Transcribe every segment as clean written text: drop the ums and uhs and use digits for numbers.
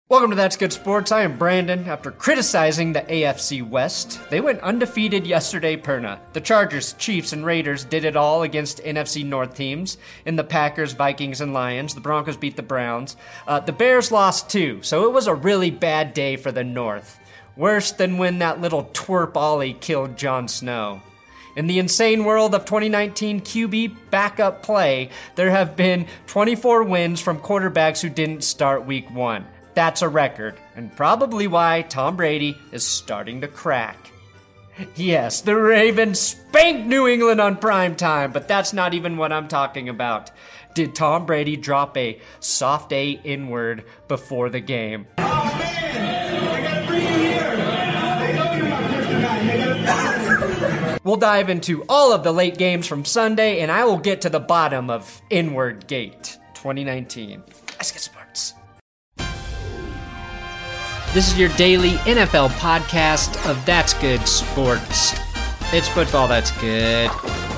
Welcome to That's Good Sports. I am Brandon. After criticizing the AFC West, they went undefeated yesterday, Perna. The Chargers, Chiefs, and Raiders did it all against NFC North teams. In the Packers, Vikings, and Lions, the Broncos beat the Browns. The Bears lost too, so it was a really bad day for the North. Worse than when that little twerp Ollie killed Jon Snow. In the insane world of 2019 QB backup play, there have been 24 wins from quarterbacks who didn't start week 1. That's a record, and probably why Tom Brady is starting to crack. Yes, the Ravens spanked New England on prime time, but that's not even what I'm talking about. Did Tom Brady drop a soft A N-word before the game? Oh man, I gotta bring you here. I know you're my kryptonite. We'll dive into all of the late games from Sunday, and I will get to the bottom of N-word Gate 2019. Let's get sports. This is your daily NFL podcast of That's Good Sports. It's football that's good.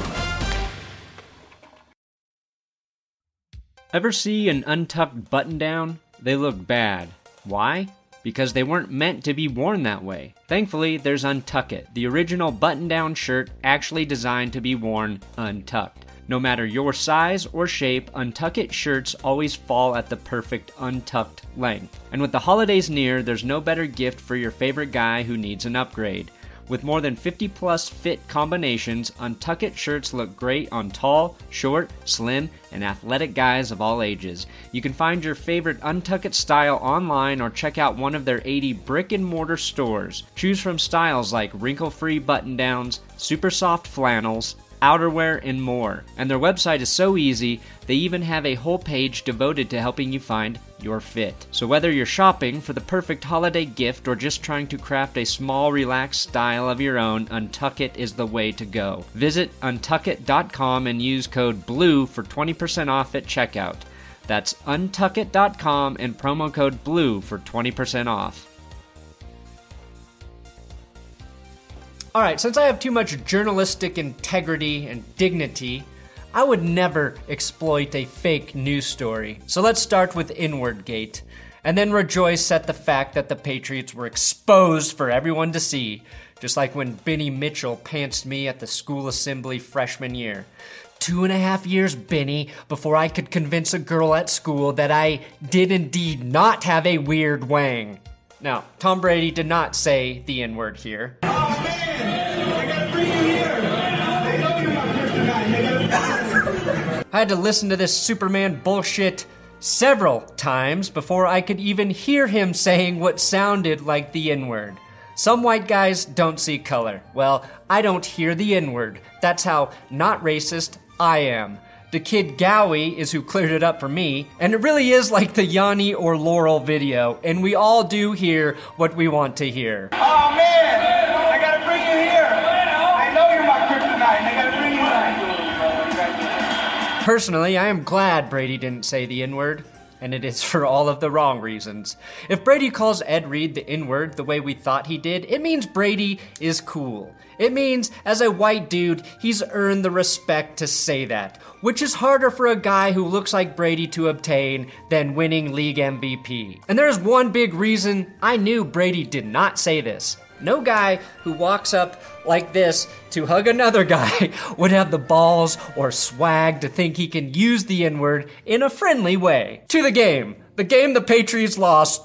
Ever see an untucked button-down? They look bad. Why? Because they weren't meant to be worn that way. Thankfully, there's Untuck It, the original button-down shirt actually designed to be worn untucked. No matter your size or shape, Untuck It shirts always fall at the perfect untucked length. And with the holidays near, there's no better gift for your favorite guy who needs an upgrade. With more than 50 plus fit combinations, Untuck It shirts look great on tall, short, slim, and athletic guys of all ages. You can find your favorite Untuck It style online or check out one of their 80 brick and mortar stores. Choose from styles like wrinkle-free button-downs, super soft flannels, outerwear, and more. And their website is so easy, they even have a whole page devoted to helping you find your fit. So whether you're shopping for the perfect holiday gift or just trying to craft a small, relaxed style of your own, Untuck It is the way to go. Visit untuckit.com and use code BLUE for 20% off at checkout. That's untuckit.com and promo code BLUE for 20% off. All right, since I have too much journalistic integrity and dignity, I would never exploit a fake news story. So let's start with N-word Gate, and then rejoice at the fact that the Patriots were exposed for everyone to see, just like when Benny Mitchell pantsed me at the school assembly freshman year. 2.5 years, Benny, before I could convince a girl at school that I did indeed not have a weird wang. Now, Tom Brady did not say the N-word here. Oh man, I gotta bring you here. I know you're my kryptonite. I had to listen to this Superman bullshit several times before I could even hear him saying what sounded like the N-word. Some white guys don't see color. Well, I don't hear the N-word. That's how not racist I am. The kid Gowie is who cleared it up for me, and it really is like the Yanni or Laurel video, and we all do hear what we want to hear. Oh man, I gotta bring you here. I know you're my kryptonite. I gotta bring you here. Personally, I am glad Brady didn't say the N-word, and it is for all of the wrong reasons. If Brady calls Ed Reed the N-word the way we thought he did, it means Brady is cool. It means, as a white dude, he's earned the respect to say that, which is harder for a guy who looks like Brady to obtain than winning league MVP. And there's one big reason I knew Brady did not say this. No guy who walks up like this to hug another guy would have the balls or swag to think he can use the N-word in a friendly way. To the game. The game the Patriots lost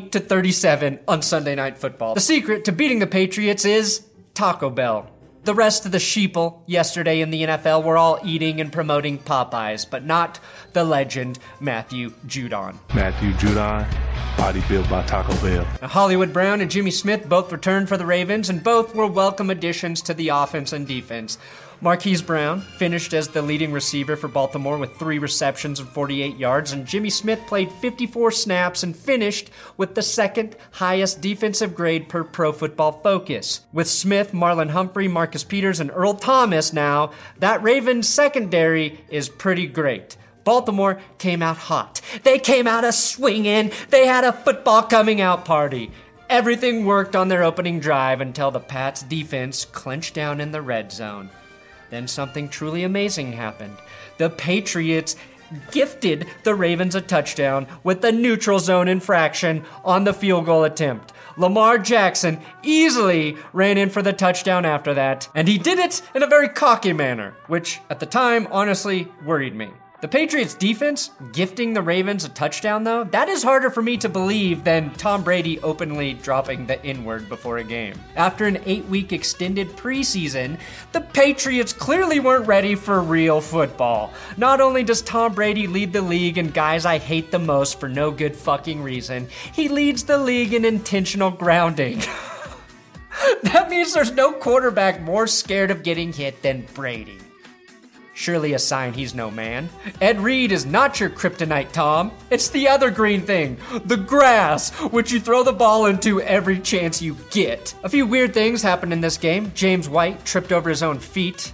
20-37 on Sunday Night Football. The secret to beating the Patriots is Taco Bell. The rest of the sheeple yesterday in the NFL were all eating and promoting Popeyes, but not the legend Matthew Judon. Matthew Judon, body built by Taco Bell. Now, Hollywood Brown and Jimmy Smith both returned for the Ravens, and both were welcome additions to the offense and defense. Marquise Brown finished as the leading receiver for Baltimore with 3 receptions and 48 yards, and Jimmy Smith played 54 snaps and finished with the second highest defensive grade per Pro Football Focus. With Smith, Marlon Humphrey, Marcus Peters, and Earl Thomas now, that Ravens secondary is pretty great. Baltimore came out hot. They came out a-swinging. They had a football coming out party. Everything worked on their opening drive until the Pats defense clenched down in the red zone. Then something truly amazing happened. The Patriots gifted the Ravens a touchdown with the neutral zone infraction on the field goal attempt. Lamar Jackson easily ran in for the touchdown after that, and he did it in a very cocky manner, which at the time honestly worried me. The Patriots defense gifting the Ravens a touchdown, though, that is harder for me to believe than Tom Brady openly dropping the N-word before a game. After an 8-week extended preseason, the Patriots clearly weren't ready for real football. Not only does Tom Brady lead the league in guys I hate the most for no good fucking reason, he leads the league in intentional grounding. That means there's no quarterback more scared of getting hit than Brady. Surely a sign he's no man. Ed Reed is not your kryptonite, Tom. It's the other green thing, the grass, which you throw the ball into every chance you get. A few weird things happened in this game. James White tripped over his own feet,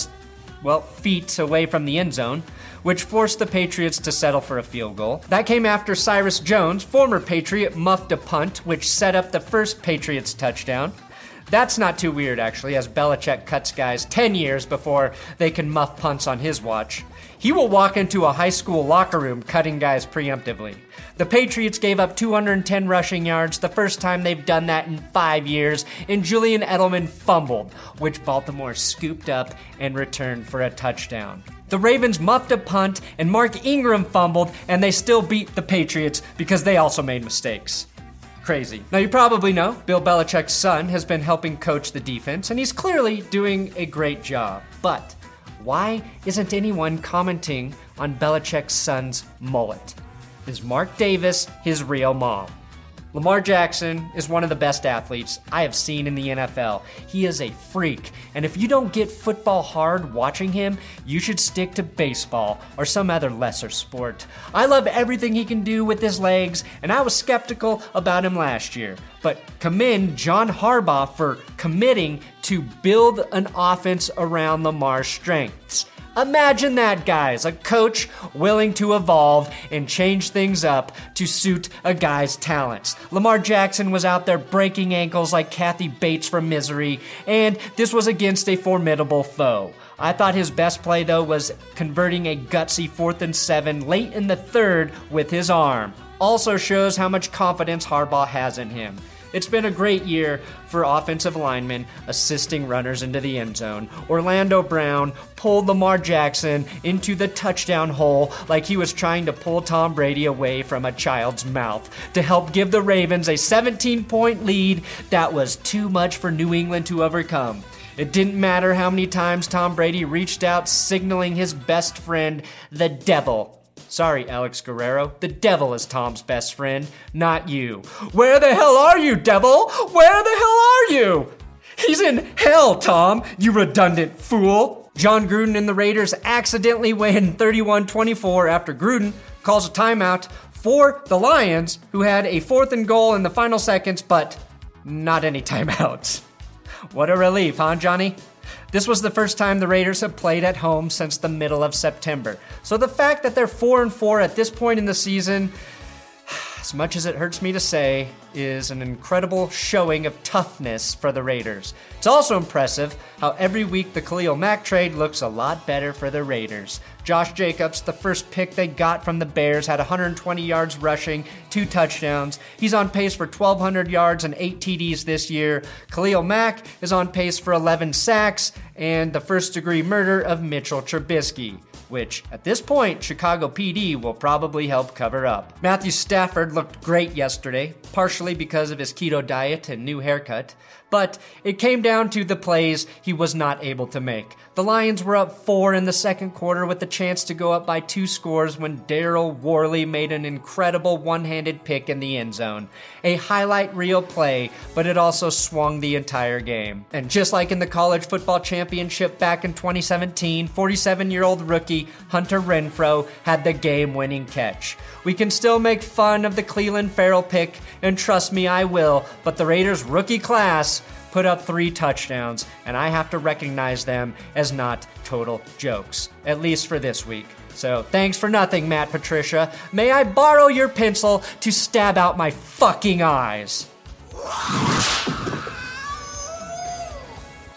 feet away from the end zone, which forced the Patriots to settle for a field goal. That came after Cyrus Jones, former Patriot, muffed a punt, which set up the first Patriots touchdown. That's not too weird, actually, as Belichick cuts guys 10 years before they can muff punts on his watch. He will walk into a high school locker room cutting guys preemptively. The Patriots gave up 210 rushing yards, the first time they've done that in 5 years, and Julian Edelman fumbled, which Baltimore scooped up and returned for a touchdown. The Ravens muffed a punt, and Mark Ingram fumbled, and they still beat the Patriots because they also made mistakes. Crazy. Now, you probably know Bill Belichick's son has been helping coach the defense, and he's clearly doing a great job. But why isn't anyone commenting on Belichick's son's mullet? Is Mark Davis his real mom? Lamar Jackson is one of the best athletes I have seen in the NFL. He is a freak, and if you don't get football hard watching him, you should stick to baseball or some other lesser sport. I love everything he can do with his legs, and I was skeptical about him last year. But commend John Harbaugh for committing to build an offense around Lamar's strengths. Imagine that, guys, a coach willing to evolve and change things up to suit a guy's talents. Lamar Jackson was out there breaking ankles like Kathy Bates from Misery, and this was against a formidable foe. I thought his best play, though, was converting a gutsy 4th and 7 late in the third with his arm. Also shows how much confidence Harbaugh has in him. It's been a great year for offensive linemen assisting runners into the end zone. Orlando Brown pulled Lamar Jackson into the touchdown hole like he was trying to pull Tom Brady away from a child's mouth to help give the Ravens a 17-point lead that was too much for New England to overcome. It didn't matter how many times Tom Brady reached out signaling his best friend, the devil. Sorry, Alex Guerrero. The devil is Tom's best friend, not you. Where the hell are you, devil? Where the hell are you? He's in hell, Tom, you redundant fool. John Gruden and the Raiders accidentally win 31-24 after Gruden calls a timeout for the Lions, who had a 4th and goal in the final seconds, but not any timeouts. What a relief, huh, Johnny? This was the first time the Raiders have played at home since the middle of September. So the fact that they're 4-4 at this point in the season, as much as it hurts me to say, is an incredible showing of toughness for the Raiders. It's also impressive how every week the Khalil Mack trade looks a lot better for the Raiders. Josh Jacobs, the first pick they got from the Bears, had 120 yards rushing, 2 touchdowns. He's on pace for 1,200 yards and 8 TDs this year. Khalil Mack is on pace for 11 sacks and the first-degree murder of Mitchell Trubisky, which, at this point, Chicago PD will probably help cover up. Matthew Stafford looked great yesterday, partially because of his keto diet and new haircut, but it came down to the plays he was not able to make. The Lions were up 4 in the second quarter with the chance to go up by 2 scores when Daryl Worley made an incredible one-handed pick in the end zone. A highlight reel play, but it also swung the entire game. And just like in the college football championship back in 2017, 47-year-old rookie Hunter Renfrow had the game-winning catch. We can still make fun of the Cleveland Farrell pick, and trust me, I will, but the Raiders' rookie class put up 3 touchdowns, and I have to recognize them as not total jokes, at least for this week. So thanks for nothing, Matt Patricia. May I borrow your pencil to stab out my fucking eyes?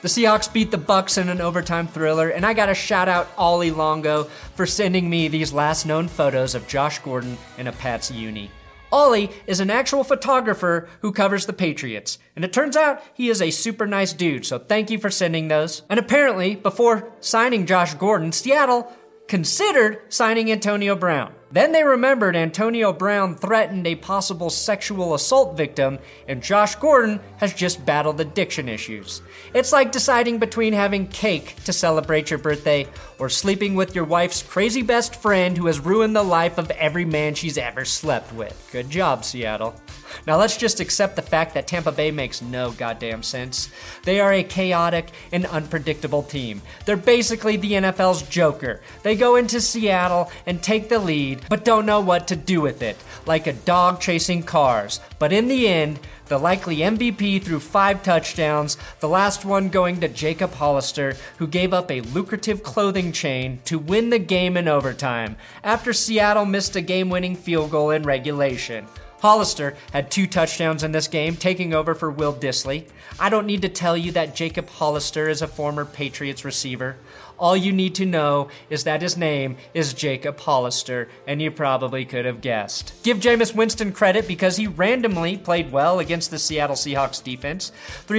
The Seahawks beat the Bucs in an overtime thriller, and I gotta shout out Ollie Longo for sending me these last known photos of Josh Gordon in a Pats uni. Ollie is an actual photographer who covers the Patriots, and it turns out he is a super nice dude, so thank you for sending those. And apparently, before signing Josh Gordon, Seattle considered signing Antonio Brown. Then they remembered Antonio Brown threatened a possible sexual assault victim, and Josh Gordon has just battled addiction issues. It's like deciding between having cake to celebrate your birthday or sleeping with your wife's crazy best friend who has ruined the life of every man she's ever slept with. Good job, Seattle. Now let's just accept the fact that Tampa Bay makes no goddamn sense. They are a chaotic and unpredictable team. They're basically the NFL's Joker. They go into Seattle and take the lead, but don't know what to do with it, like a dog chasing cars. But in the end, the likely MVP threw 5 touchdowns, the last one going to Jacob Hollister, who gave up a lucrative clothing chain to win the game in overtime, after Seattle missed a game-winning field goal in regulation. Hollister had 2 touchdowns in this game, taking over for Will Dissly. I don't need to tell you that Jacob Hollister is a former Patriots receiver. All you need to know is that his name is Jacob Hollister, and you probably could have guessed. Give Jameis Winston credit because he randomly played well against the Seattle Seahawks defense.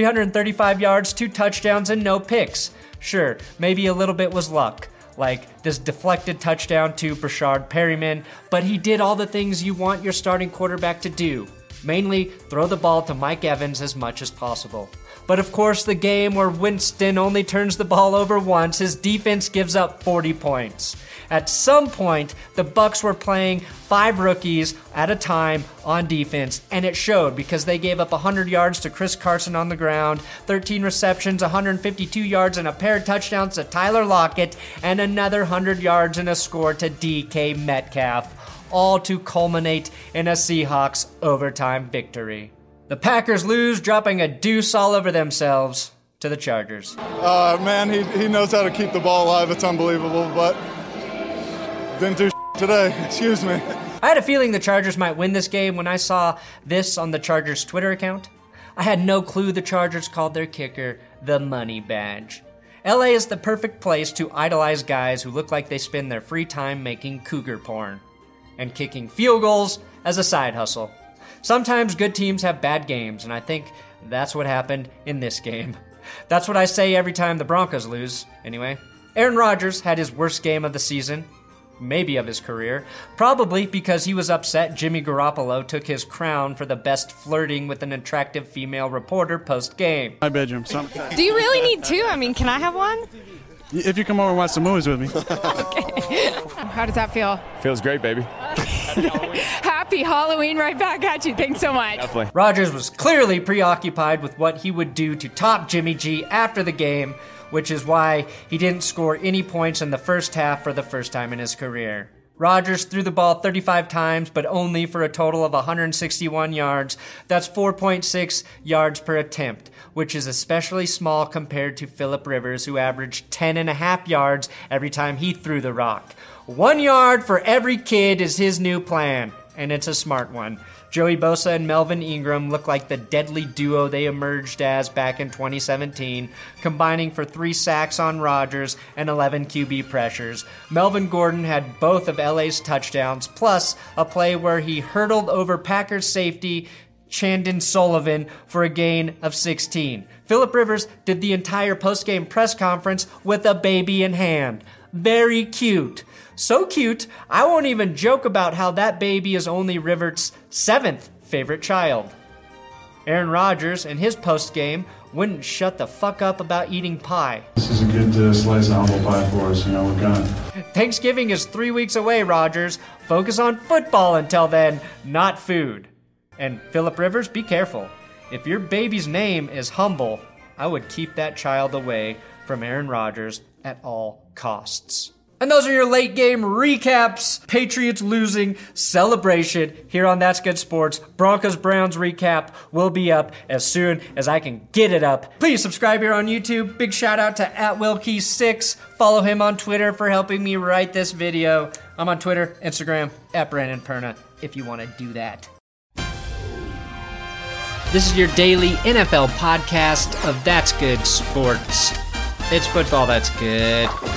335 yards, 2 touchdowns, and no picks. Sure, maybe a little bit was luck, like this deflected touchdown to Brashard Perryman, but he did all the things you want your starting quarterback to do. Mainly, throw the ball to Mike Evans as much as possible. But of course, the game where Winston only turns the ball over once, his defense gives up 40 points. At some point, the Bucs were playing 5 rookies at a time on defense, and it showed because they gave up 100 yards to Chris Carson on the ground, 13 receptions, 152 yards, and a pair of touchdowns to Tyler Lockett, and another 100 yards and a score to DK Metcalf, all to culminate in a Seahawks overtime victory. The Packers lose, dropping a deuce all over themselves to the Chargers. Man, he knows how to keep the ball alive. It's unbelievable, but didn't do today. Excuse me. I had a feeling the Chargers might win this game when I saw this on the Chargers Twitter account. I had no clue the Chargers called their kicker the Money Badge. LA is the perfect place to idolize guys who look like they spend their free time making cougar porn and kicking field goals as a side hustle. Sometimes good teams have bad games, and I think that's what happened in this game. That's what I say every time the Broncos lose, anyway. Aaron Rodgers had his worst game of the season, maybe of his career, probably because he was upset Jimmy Garoppolo took his crown for the best flirting with an attractive female reporter post-game. My bedroom. Do you really need 2? I mean, can I have one? If you come over and watch some movies with me. Okay. How does that feel? Feels great, baby. Happy Halloween right back at you. Thanks so much. Definitely. Rodgers was clearly preoccupied with what he would do to top Jimmy G after the game, which is why he didn't score any points in the first half for the first time in his career. Rodgers threw the ball 35 times, but only for a total of 161 yards. That's 4.6 yards per attempt, which is especially small compared to Phillip Rivers, who averaged 10.5 yards every time he threw the rock. 1 yard for every kid is his new plan, and it's a smart one. Joey Bosa and Melvin Ingram look like the deadly duo they emerged as back in 2017, combining for 3 sacks on Rodgers and 11 QB pressures. Melvin Gordon had both of LA's touchdowns, plus a play where he hurdled over Packers safety Chandon Sullivan for a gain of 16. Phillip Rivers did the entire postgame press conference with a baby in hand. Very cute. So cute, I won't even joke about how that baby is only Rivers' 7th favorite child. Aaron Rodgers, in his postgame, wouldn't shut the fuck up about eating pie. This is a good slice of humble pie for us, we're gonna. Thanksgiving is 3 weeks away, Rodgers. Focus on football until then, not food. And Phillip Rivers, be careful. If your baby's name is Humble, I would keep that child away from Aaron Rodgers at all costs. And those are your late game recaps. Patriots losing, celebration here on That's Good Sports. Broncos-Browns recap will be up as soon as I can get it up. Please subscribe here on YouTube. Big shout out to @Wilkey6. Follow him on Twitter for helping me write this video. I'm on Twitter, Instagram, @Brandon Perna, if you want to do that. This is your daily NFL podcast of That's Good Sports. It's football that's good.